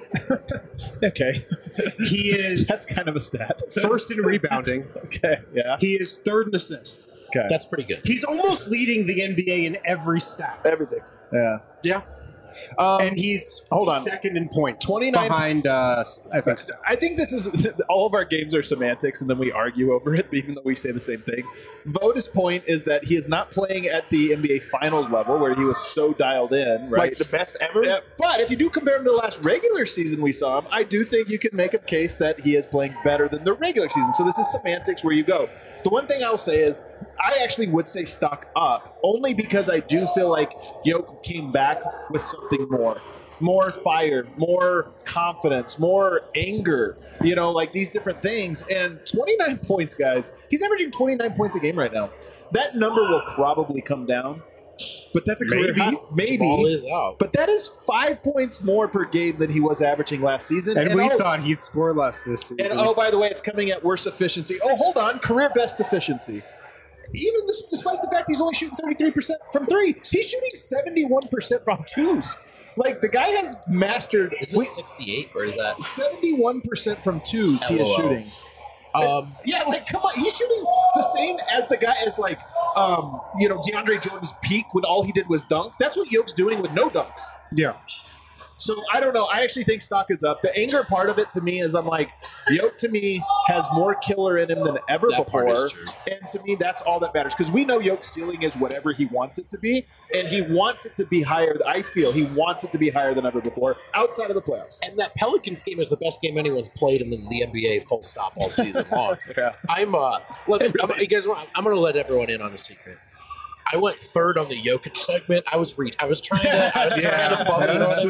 Okay. He is That's kind of a stat. first in rebounding. Okay. Yeah. He is third in assists. Okay. That's pretty good. He's almost leading the NBA in every stat. Everything. yeah. Yeah. And he's hold on. second in points. 29 behind, I think. I think this is all of our games are semantics, and then we argue over it, even though we say the same thing. Voda's point is that he is not playing at the NBA Finals level, where he was so dialed in, right? Like the best ever? Yeah, but if you do compare him to the last regular season we saw him, I do think you can make a case that he is playing better than the regular season. So this is semantics where you go. The one thing I'll say is I actually would say stock up, only because I do feel like Yoke came back with something more. more fire, more confidence, more anger, like these different things. And 29 points, guys. He's averaging 29 points a game right now. That number will probably come down, but that's a career high. Maybe. Ball is out. But that is 5 points more per game than he was averaging last season. And we thought he'd score less this season. And by the way, it's coming at worse efficiency. Oh, hold on. Career best efficiency. Even despite the fact he's only shooting 33% from three, he's shooting 71% from twos. Like, the guy has mastered. Is it 68 or is that 71% from twos? He is shooting. Yeah, like, come on, he's shooting the same as the guy as DeAndre Jordan's peak when all he did was dunk. That's what Yoke's doing with no dunks. Yeah. So I don't know. I actually think stock is up. The anger part of it to me is I'm like, Yoke to me has more killer in him than ever before. And to me, that's all that matters. Because we know Yoke's ceiling is whatever he wants it to be. And he wants it to be higher. I feel he wants it to be higher than ever before outside of the playoffs. And that Pelicans game is the best game anyone's played in the NBA full stop all season long. Yeah. I'm going to let everyone in on a secret. I went third on the Jokic segment. I was trying to bump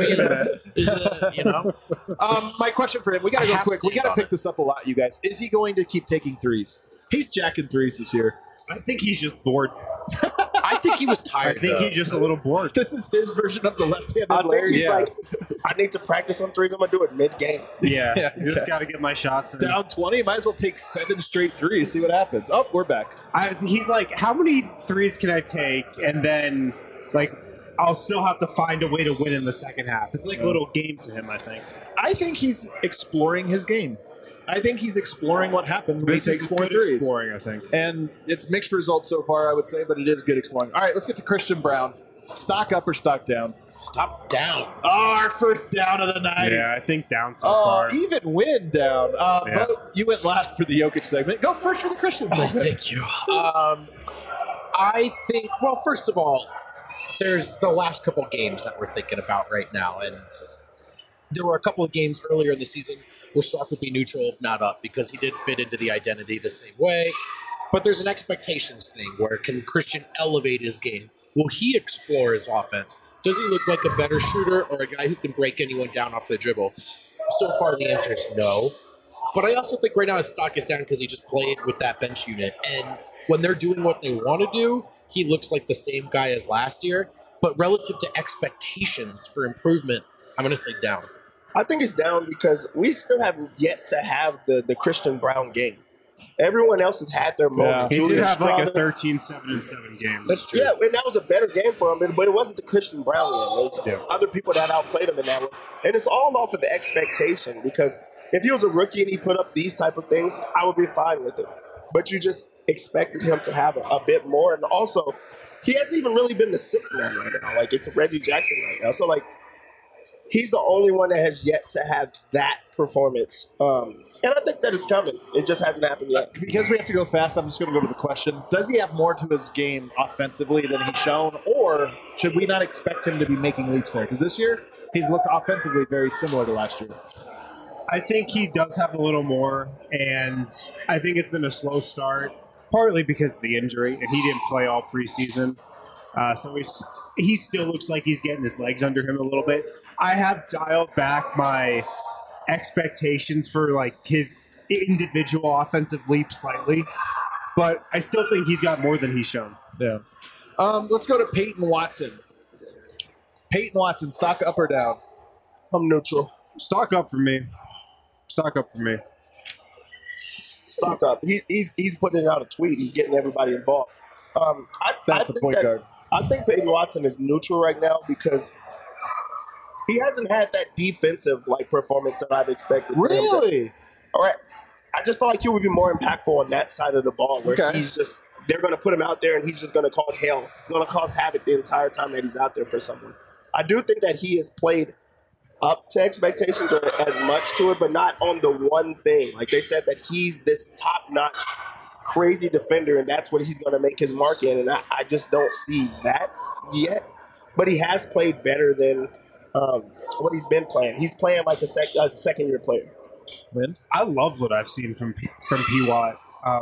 it. My question for him, we got to go quick. We got to pick this up a lot, you guys. Is he going to keep taking threes? He's jacking threes this year. I think he's just bored. I think he was tired. I think he's just a little bored. This is his version of the left-handed I think Larry. he's like, I need to practice on threes. I'm going to do it mid-game. Yeah. Just got to get my shots in. Down 20, might as well take 7 straight threes, see what happens. Oh, we're back. He's like, how many threes can I take? And then, I'll still have to find a way to win in the second half. It's like a little game to him, I think. I think he's exploring his game. I think he's exploring what happens when he takes more threes. Exploring, I think. And it's mixed results so far, I would say, but it is good exploring. All right, let's get to Christian Brown. Stock up or stock down? Stock down. Oh, our first down of the night. Yeah, I think down so far. Even win down. Vote, you went last for the Jokic segment. Go first for the Christian segment. Thank you. I think, well, first of all, there's the last couple games that we're thinking about right now. And there were a couple of games earlier in the season where stock would be neutral, if not up, because he did fit into the identity the same way. But there's an expectations thing where can Christian elevate his game? Will he explore his offense? Does he look like a better shooter or a guy who can break anyone down off the dribble? So far, the answer is no. But I also think right now his stock is down because he just played with that bench unit. And when they're doing what they want to do, he looks like the same guy as last year. But relative to expectations for improvement, I'm going to say down. I think it's down because we still have yet to have the Christian Brown game. Everyone else has had their moment. He Julius did have like a Strawther. 13-7-7 game. That's true. Yeah, and that was a better game for him, but it wasn't the Christian Brown game. It was other people that outplayed him in that one. And it's all off of expectation because if he was a rookie and he put up these type of things, I would be fine with it. But you just expected him to have a bit more. And also, he hasn't even really been the sixth man right now. Like, it's Reggie Jackson right now. So, he's the only one that has yet to have that performance. And I think that it's coming. It just hasn't happened yet. Because we have to go fast, I'm just going to go to the question. Does he have more to his game offensively than he's shown? Or should we not expect him to be making leaps there? Because this year, he's looked offensively very similar to last year. I think he does have a little more, and I think it's been a slow start, partly because of the injury, and he didn't play all preseason. So he still looks like he's getting his legs under him a little bit. I have dialed back my expectations for his individual offensive leap slightly, but I still think he's got more than he's shown. Yeah. Let's go to Peyton Watson. Peyton Watson, stock up or down? I'm neutral. Stock up for me. Stock up for me. Stock up. He's putting out a tweet. He's getting everybody involved. That's a point guard. I think Peyton Watson is neutral right now because he hasn't had that defensive performance that I've expected. Really? All right. I just felt like he would be more impactful on that side of the ball where they're going to put him out there and he's just going to cause hell, going to cause havoc the entire time that he's out there for someone. I do think that he has played up to expectations or as much to it, but not on the one thing. Like they said that he's this top-notch, crazy defender, and that's what he's going to make his mark in, and I just don't see that yet. But he has played better than what he's been playing. He's playing like a second-year player. Lynn? I love what I've seen from P. Watt.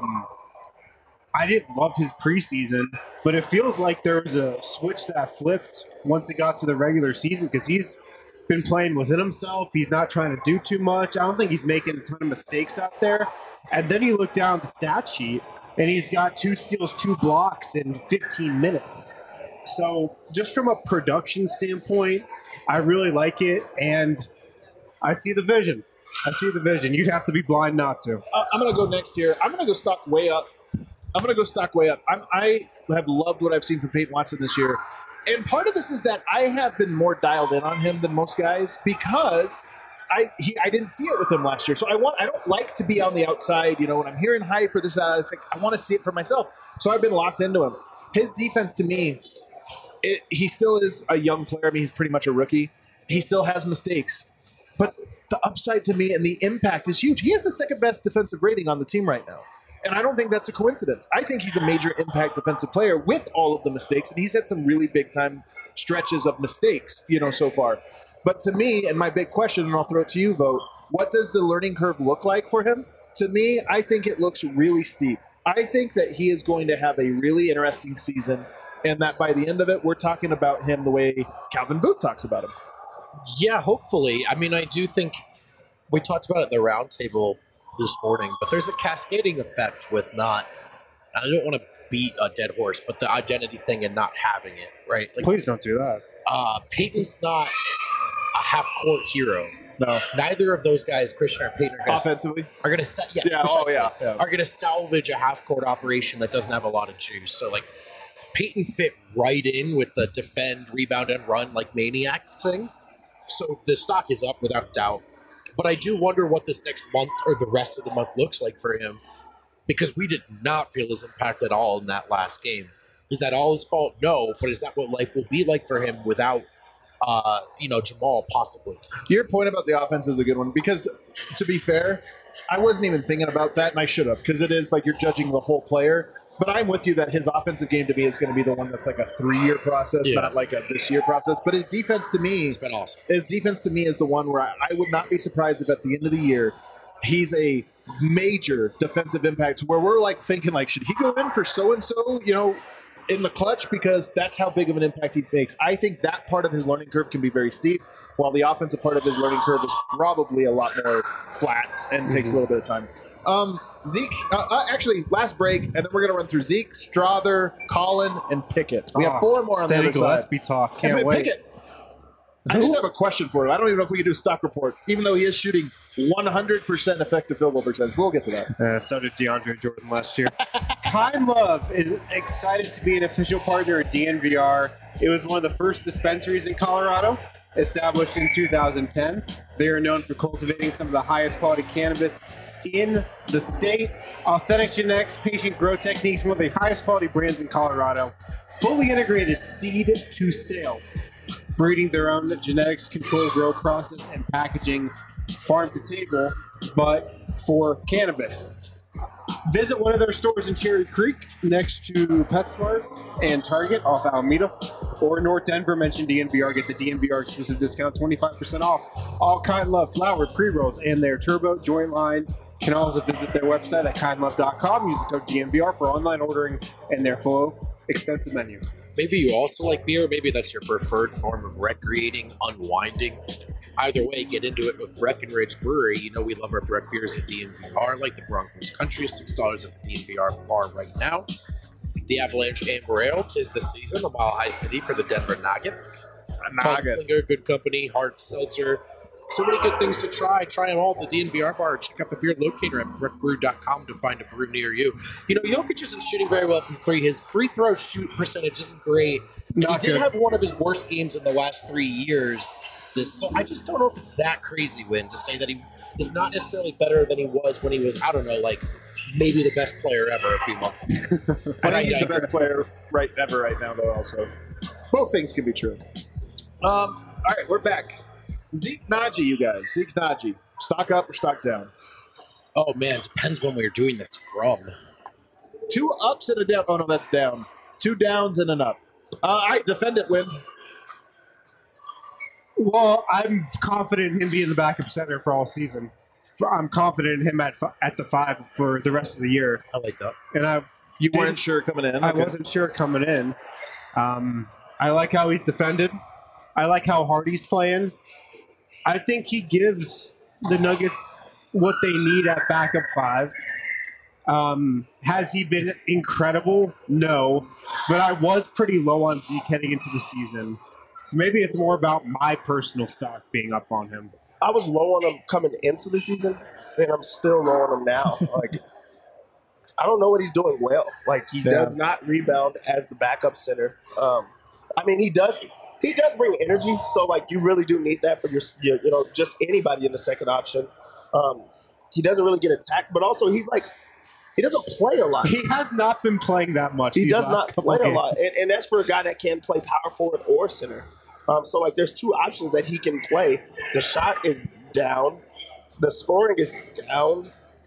I didn't love his preseason, but it feels like there was a switch that flipped once it got to the regular season because he's been playing within himself. He's not trying to do too much. I don't think he's making a ton of mistakes out there. And then you look down at the stat sheet, and he's got 2 steals, 2 blocks in 15 minutes. So just from a production standpoint, I really like it, and I see the vision. You'd have to be blind not to. I'm going to go next here. I'm going to go stock way up. I have loved what I've seen from Peyton Watson this year. And part of this is that I have been more dialed in on him than most guys because I didn't see it with him last year. So I don't like to be on the outside. When I'm hearing hype or this, it's like I want to see it for myself. So I've been locked into him. His defense, to me, he still is a young player. I mean, he's pretty much a rookie. He still has mistakes. But the upside to me and the impact is huge. He has the second best defensive rating on the team right now. And I don't think that's a coincidence. I think he's a major impact defensive player with all of the mistakes. And he's had some really big time stretches of mistakes, so far. But to me, and my big question, and I'll throw it to you, Vogt, what does the learning curve look like for him? To me, I think it looks really steep. I think that he is going to have a really interesting season, and that by the end of it, we're talking about him the way Calvin Booth talks about him. Yeah, hopefully. I mean, I do think we talked about it at the roundtable this morning, but there's a cascading effect with I don't want to beat a dead horse, but the identity thing and not having it, right? Like, please don't do that. Peyton's not a half-court hero. No. Neither of those guys, Christian or Peyton, offensively are going to are going to salvage a half-court operation that doesn't have a lot of juice. So, like, Peyton fit right in with the defend, rebound, and run like maniac thing. So the stock is up without doubt. But I do wonder what this next month or the rest of the month looks like for him, because we did not feel his impact at all in that last game. Is that all his fault? No, but is that what life will be like for him without, Jamal possibly? Your point about the offense is a good one, because to be fair, I wasn't even thinking about that, and I should have, because it is like you're judging the whole player. But I'm with you that his offensive game to me is going to be the one that's like a 3-year process, not like a this-year process. But his defense to me, it's been awesome. His defense to me is the one where I would not be surprised if at the end of the year he's a major defensive impact, where we're like thinking like, should he go in for so-and-so, in the clutch, because that's how big of an impact he makes. I think that part of his learning curve can be very steep, while the offensive part of his learning curve is probably a lot more flat and takes a little bit of time. Zeke, actually, last break, and then we're going to run through Zeke, Strother, Colin, and Pickett. We have 4 more on the other side. Gillespie talk. Can't wait. Pickett, I just have a question for him. I don't even know if we can do a stock report, even though he is shooting 100% effective field goal percentage. We'll get to that. So did DeAndre Jordan last year. Kind Love is excited to be an official partner at DNVR. It was one of the first dispensaries in Colorado, established in 2010. They are known for cultivating some of the highest quality cannabis in the state. Authentic genetics, patient grow techniques, one of the highest quality brands in Colorado. Fully integrated seed to sale. Breeding their own genetics, controlled grow process, and packaging farm to table, but for cannabis. Visit one of their stores in Cherry Creek next to PetSmart and Target off Alameda, or North Denver. Mention DNVR, get the DNVR exclusive discount, 25% off all Kind Love flower pre-rolls and their turbo joint line. You can also visit their website at kindlove.com. Use the code DNVR for online ordering and their full extensive menu. Maybe you also like beer. Maybe that's your preferred form of recreating, unwinding. Either way, get into it with Breckenridge Brewery. We love our Breck beers at DNVR, like the Broncos Country, $6 at the DNVR bar right now. The Avalanche Amber Ale, 'tis the season, a Mile High City for the Denver Nuggets. Funkslinger, Good Company, Hard Seltzer. So many good things to try. Try them all at the DNVR bar. Check out the beer locator at breckbrew.com to find a brew near you. Jokic isn't shooting very well from 3. His free throw shoot percentage isn't great. He did have one of his worst games in the last 3 years. So I just don't know if it's that crazy, Win, to say that he is not necessarily better than he was when he was, maybe the best player ever a few months ago. But I think he's the best player ever right now, though, also. Both things can be true. All right, we're back. Zeke Naji, you guys. Zeke Naji. Stock up or stock down? Oh, man, depends when we're doing this from. 2 ups and a down. Oh, no, that's down. 2 downs and an up. All right, defend it, Win. Well, I'm confident in him being the backup center for all season. I'm confident in him at the 5 for the rest of the year. I like that. And you weren't sure coming in? I wasn't sure coming in. I like how he's defended. I like how hard he's playing. I think he gives the Nuggets what they need at backup 5. Has he been incredible? No. But I was pretty low on Zeke heading into the season. So maybe it's more about my personal stock being up on him. I was low on him coming into the season, and I'm still low on him now. Like, I don't know what he's doing well. Like, he does not rebound as the backup center. I mean, he does bring energy. So, like, you really do need that for your just anybody in the second option. He doesn't really get attacked, but also he doesn't play a lot. He has not been playing that much. He does not play a lot, and that's for a guy that can play power forward or center. So, like, there's two options that he can play. The shot is down. The scoring is down.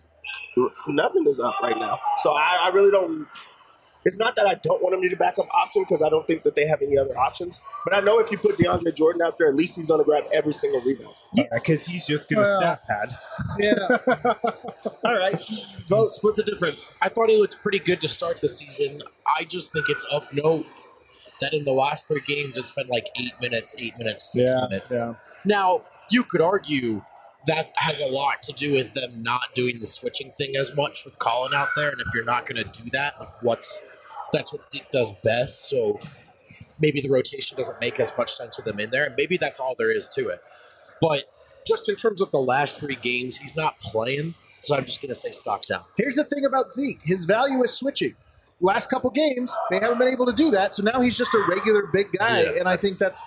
Nothing is up right now. So I really don't – it's not that I don't want him to be a backup option because I don't think that they have any other options. But I know if you put DeAndre Jordan out there, at least he's going to grab every single rebound. Yeah, because he's just going to stat pad. Yeah. All right. Vote, split the difference. I thought he looked pretty good to start the season. I just think it's of note that in the last 3 games, it's been like 8 minutes, 6 minutes. Yeah. Now, you could argue that has a lot to do with them not doing the switching thing as much with Colin out there. And if you're not going to do that, that's what Zeke does best. So maybe the rotation doesn't make as much sense with him in there. And maybe that's all there is to it. But just in terms of the last 3 games, he's not playing. So I'm just going to say stock down. Here's the thing about Zeke. His value is switching. Last couple games, they haven't been able to do that. So now he's just a regular big guy. Yeah, and I think that's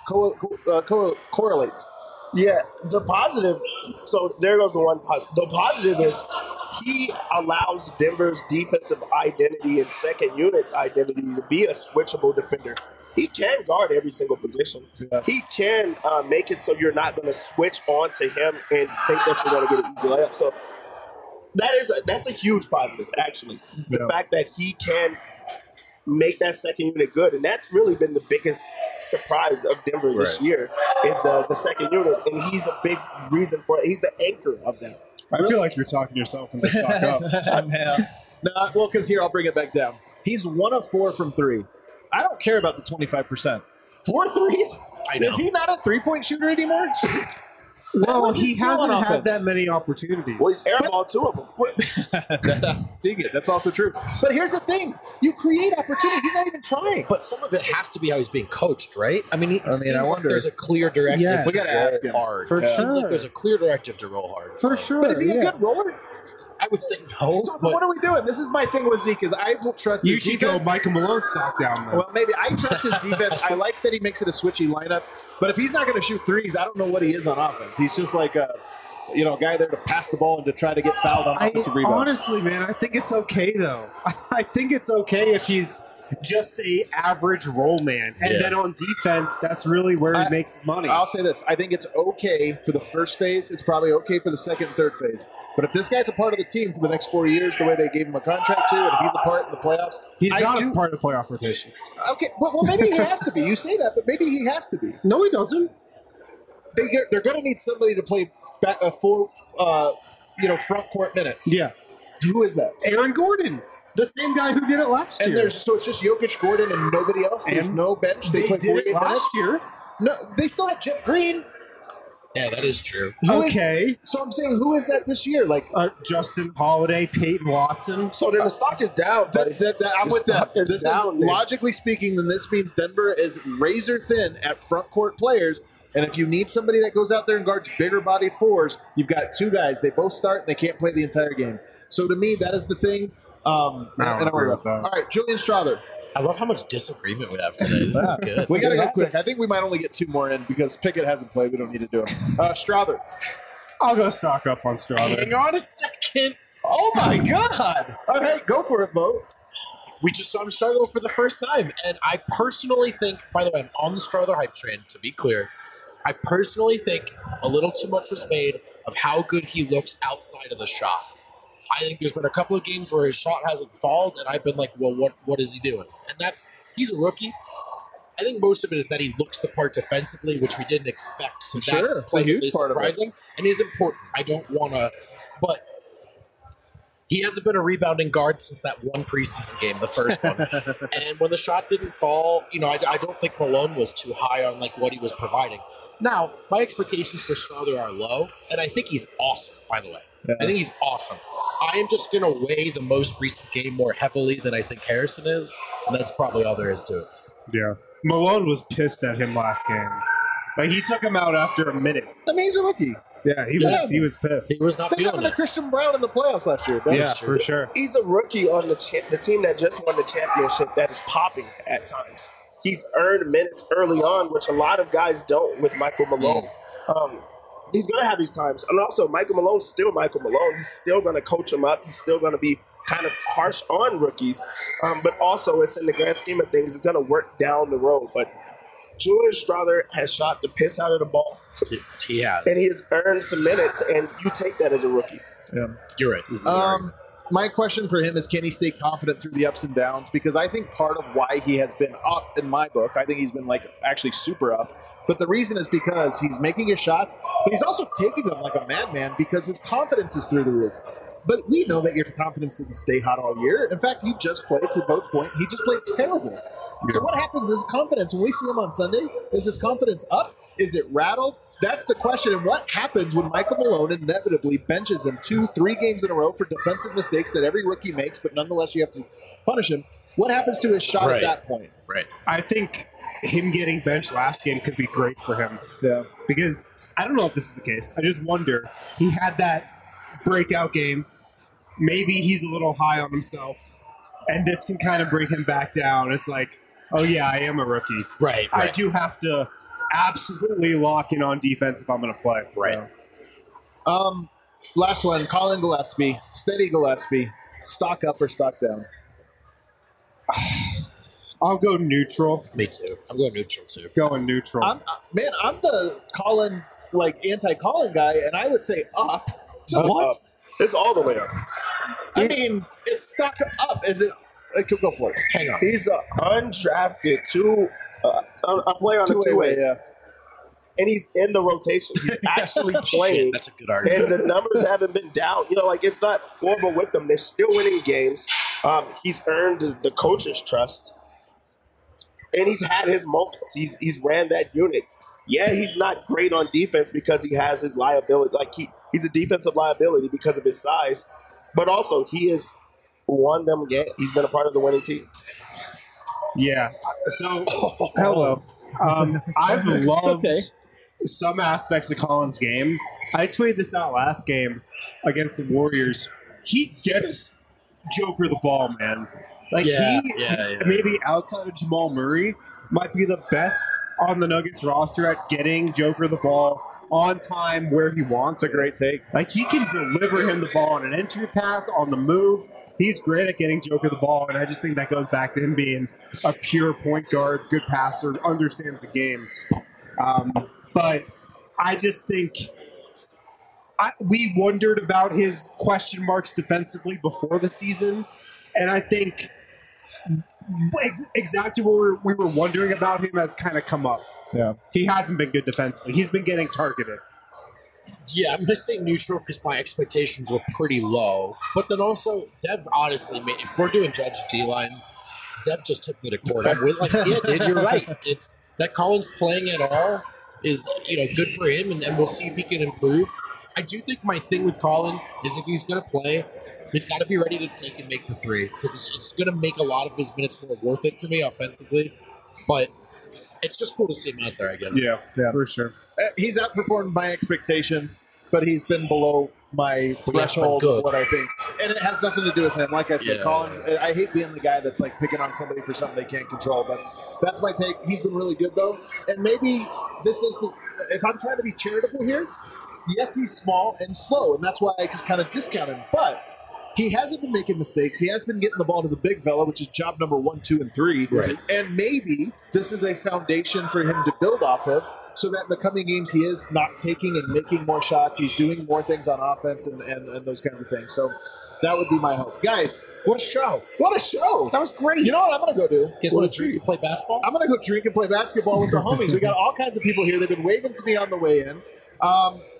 correlates. Yeah, the positive. So there goes the one positive. The positive is he allows Denver's defensive identity and second unit's identity to be a switchable defender. He can guard every single position. Yeah. He can make it so you're not going to switch on to him and think that you're going to get an easy layup. So that's a huge positive, actually. The fact that he can make that second unit good. And that's really been the biggest surprise of Denver this year is the second unit. And he's a big reason for it. He's the anchor of that. I feel like you're talking yourself into stock up. No, well, because here, I'll bring it back down. He's 1 of 4 from 3. I don't care about the 25%. 4 threes? I know. Is he not a three-point shooter anymore? Well, was his he skill on hasn't had offense? that many opportunities. Well, he's airballed 2 of them. Dig it. That's also true. But here's the thing. You create opportunity. He's not even trying. But some of it has to be how he's being coached, right? I mean, it seems I like wonder. there's a clear directive Yes. to We gotta roll ask him. hard. For It seems sure. like there's a clear directive to roll hard. For so sure. But is he a good roller? I would say no. So then but what are we doing? This is my thing with Zeke is I will trust You his should go defense. Michael Malone stock down then. Well, maybe I trust his defense. I like that he makes it a switchy lineup. But if he's not going to shoot threes, I don't know what he is on offense. He's just like a guy there to pass the ball and to try to get fouled on offensive rebounds. Honestly, man, I think it's okay though. I think it's okay if he's just a average role man, and Yeah. then on defense, that's really where he makes his money. I'll say this. I think it's okay for the first phase. It's probably okay for the second and third phase. But if this guy's a part of the team for the next 4 years, the way they gave him a contract to, and if he's a part in the playoffs, He's I not do- a part of the playoff rotation. Okay, well, maybe he has to be. You say that, but maybe he has to be. No, he doesn't. They're going to need somebody to play front court minutes. Yeah, Who is that? Aaron Gordon, the same guy who did it last And year. it's just Jokic, Gordon, and nobody else. There's And no bench. They they play did 48 it minutes. last year. No, they still had Jeff Green. yeah, that is true. Who is- Okay, so I'm saying, who is that this year? Like, Justin Holiday, Peyton Watson. So then the stock is down, buddy. I'm with that. stock is This down, is man. logically speaking. Then this means Denver is razor thin at front court players. And if you need somebody that goes out there and guards bigger bodied fours, you've got 2 guys. They both start and they can't play the entire game. So to me, that is the thing. And I agree worry with about that. All right, Julian Strother. I love how much disagreement we have today. This is good. We got to It go happens. quick. I think we might only get 2 more in because Pickett hasn't played. We don't need to do it. Strother. I'll go stock up on Strother. Hang on a second. Oh my God! All right, go for it, Bo. We just saw him struggle for the first time. And I personally think, by the way, I'm on the Strother hype train, to be clear. I personally think a little too much was made of how good he looks outside of the shot. I think there's been a couple of games where his shot hasn't fallen, and I've been like, well, what is he doing? And he's a rookie. I think most of it is that he looks the part defensively, which we didn't expect. So Sure, that's it's a pleasantly huge part of it. surprising and is important. I don't want to, but He hasn't been a rebounding guard since that one preseason game, the first one. And when the shot didn't fall, I don't think Malone was too high on like what he was providing. Now, my expectations for Strother are low, and I think he's awesome, by the way. Yeah. I think he's awesome. I am just going to weigh the most recent game more heavily than I think Harrison is, and that's probably all there is to it. Yeah. Malone was pissed at him last game. Like, he took him out after a minute. I mean, he's a rookie. Yeah, he was pissed. He was not Think feeling it. Christian Brown in the playoffs last year. That's true. For sure. He's a rookie on the team that just won the championship that is popping at times. He's earned minutes early on, which a lot of guys don't with Michael Malone. He's going to have these times. And also, Michael Malone's still Michael Malone. He's still going to coach him up. He's still going to be kind of harsh on rookies. But also, it's in the grand scheme of things, it's going to work down the road. But Julian Strother has shot the piss out of the ball. He has. And he has earned some minutes, and you take that as a rookie. Yeah. You're right. My question for him is, can he stay confident through the ups and downs? Because I think part of why he has been up in my book, I think he's been like actually super up. But the reason is because he's making his shots, but he's also taking them like a madman because his confidence is through the roof. But we know that your confidence didn't stay hot all year. In fact, he just played, to Bo's point, he just played terrible. Yeah. So what happens is confidence, when we see him on Sunday, is his confidence up? Is it rattled? That's the question. And what happens when Michael Malone inevitably benches him 2-3 games in a row for defensive mistakes that every rookie makes, but nonetheless you have to punish him? What happens to his shot at that point? Right. I think him getting benched last game could be great for him. Yeah. Because I don't know if this is the case. I just wonder. He had that breakout game. Maybe he's a little high on himself, and this can kind of bring him back down. It's like, oh yeah, I am a rookie. Right. I do have to absolutely lock in on defense if I'm going to play. Right. So. Last one, Colin Gillespie. Steady Gillespie. Stock up or stock down? I'll go neutral. Me too. I'm going neutral too. Going neutral. I'm the Colin, anti-Colin guy, and I would say up. Just what? Up. It's all the way up. I mean, it's stock up. Is it? Go for it. Hang on. He's an undrafted a player on the two-way. Yeah. And he's in the rotation. He's actually playing. Shit, that's a good argument. And the numbers haven't been down. It's not horrible with them. They're still winning games. He's earned the coach's trust. And he's had his moments. He's ran that unit. Yeah, he's not great on defense because he has his liability. He's a defensive liability because of his size. But also, he has won them games. He's been a part of the winning team. Yeah. So, hello. I've loved some aspects of Colin's game. I tweeted this out last game against the Warriors. He gets Joker the ball, man. Maybe outside of Jamal Murray, might be the best on the Nuggets roster at getting Joker the ball on time where he wants. It's a great take. He can deliver him the ball on an entry pass, on the move. He's great at getting Joker the ball, and I just think that goes back to him being a pure point guard, good passer, understands the game. But I just think we wondered about his question marks defensively before the season, and I think exactly what we were wondering about him has kind of come up. Yeah, he hasn't been good defensively. He's been getting targeted. Yeah, I'm going to say neutral because my expectations were pretty low. But then also, Dev, honestly, if we're doing Judge D-line, Dev just took me to court. I'm with, dude, you're right. It's that Colin's playing at all is, good for him, and we'll see if he can improve. I do think my thing with Colin is if he's going to play, he's got to be ready to take and make the three because it's going to make a lot of his minutes more worth it to me offensively. But it's just cool to see him out there, I guess. Yeah, for sure. He's outperformed my expectations, but he's been below my threshold of what I think. And it has nothing to do with him. Like I said, Collins, I hate being the guy that's picking on somebody for something they can't control, but that's my take. He's been really good, though. And maybe this is if I'm trying to be charitable here, yes, he's small and slow, and that's why I just kind of discount him. But he hasn't been making mistakes. He has been getting the ball to the big fella, which is job number 1, 2, and 3. Right. And maybe this is a foundation for him to build off of so that in the coming games he is not taking and making more shots. He's doing more things on offense and those kinds of things. So that would be my hope. Guys, what a show. What a show. That was great. You know what I'm going to go do? Guess what? Drink and play basketball? I'm going to go drink and play basketball with the homies. We got all kinds of people here. They've been waving to me on the way in.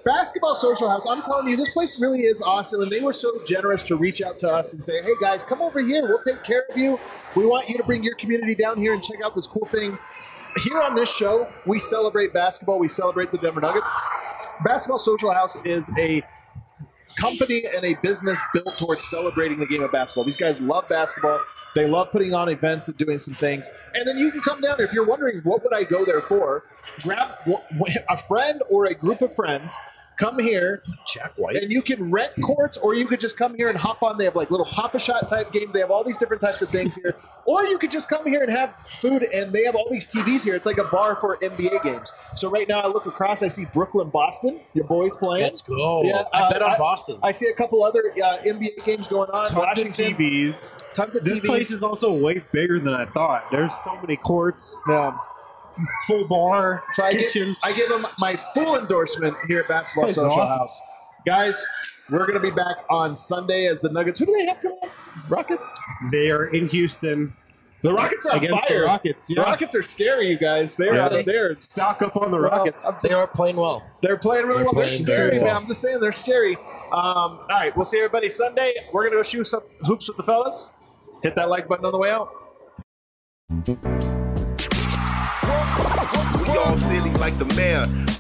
Basketball Social House, I'm telling you, this place really is awesome, and they were so generous to reach out to us and say, hey, guys, come over here. We'll take care of you. We want you to bring your community down here and check out this cool thing. Here on this show, we celebrate basketball. We celebrate the Denver Nuggets. Basketball Social House is a company and a business built towards celebrating the game of basketball. These guys love basketball. They love putting on events and doing some things. And then you can come down. If you're wondering, what would I go there for? Grab a friend or a group of friends. Come here, Jack White. and you can rent courts, or you could just come here and hop on. They have like little Pop-A-Shot type games. They have all these different types of things here. Or you could just come here and have food, and they have all these TVs here. It's like a bar for NBA games. So right now I look across, I see Brooklyn, Boston. Your boys playing. Let's go. Yeah, I bet on Boston. I see a couple other NBA games going on. Tons of TVs. Tons of This TVs. place is also way bigger than I thought. There's so many courts, Yeah. full bar, So I kitchen. give them my full endorsement here at Basketball This place is Social awesome. House. Guys, we're going to be back on Sunday as the Nuggets. Who do they have coming up? Rockets? They are in Houston The Rockets are on against fire. the Rockets. The Yeah. Rockets are scary, you guys. They're Yeah. they're Stock up on the Rockets. They are playing well. they're playing really They're well. They're playing scary, very man. well. I'm just saying they're scary. All right, we'll see everybody Sunday. We're gonna go shoot some hoops with the fellas. Hit that like button on the way out. We all silly like the mayor.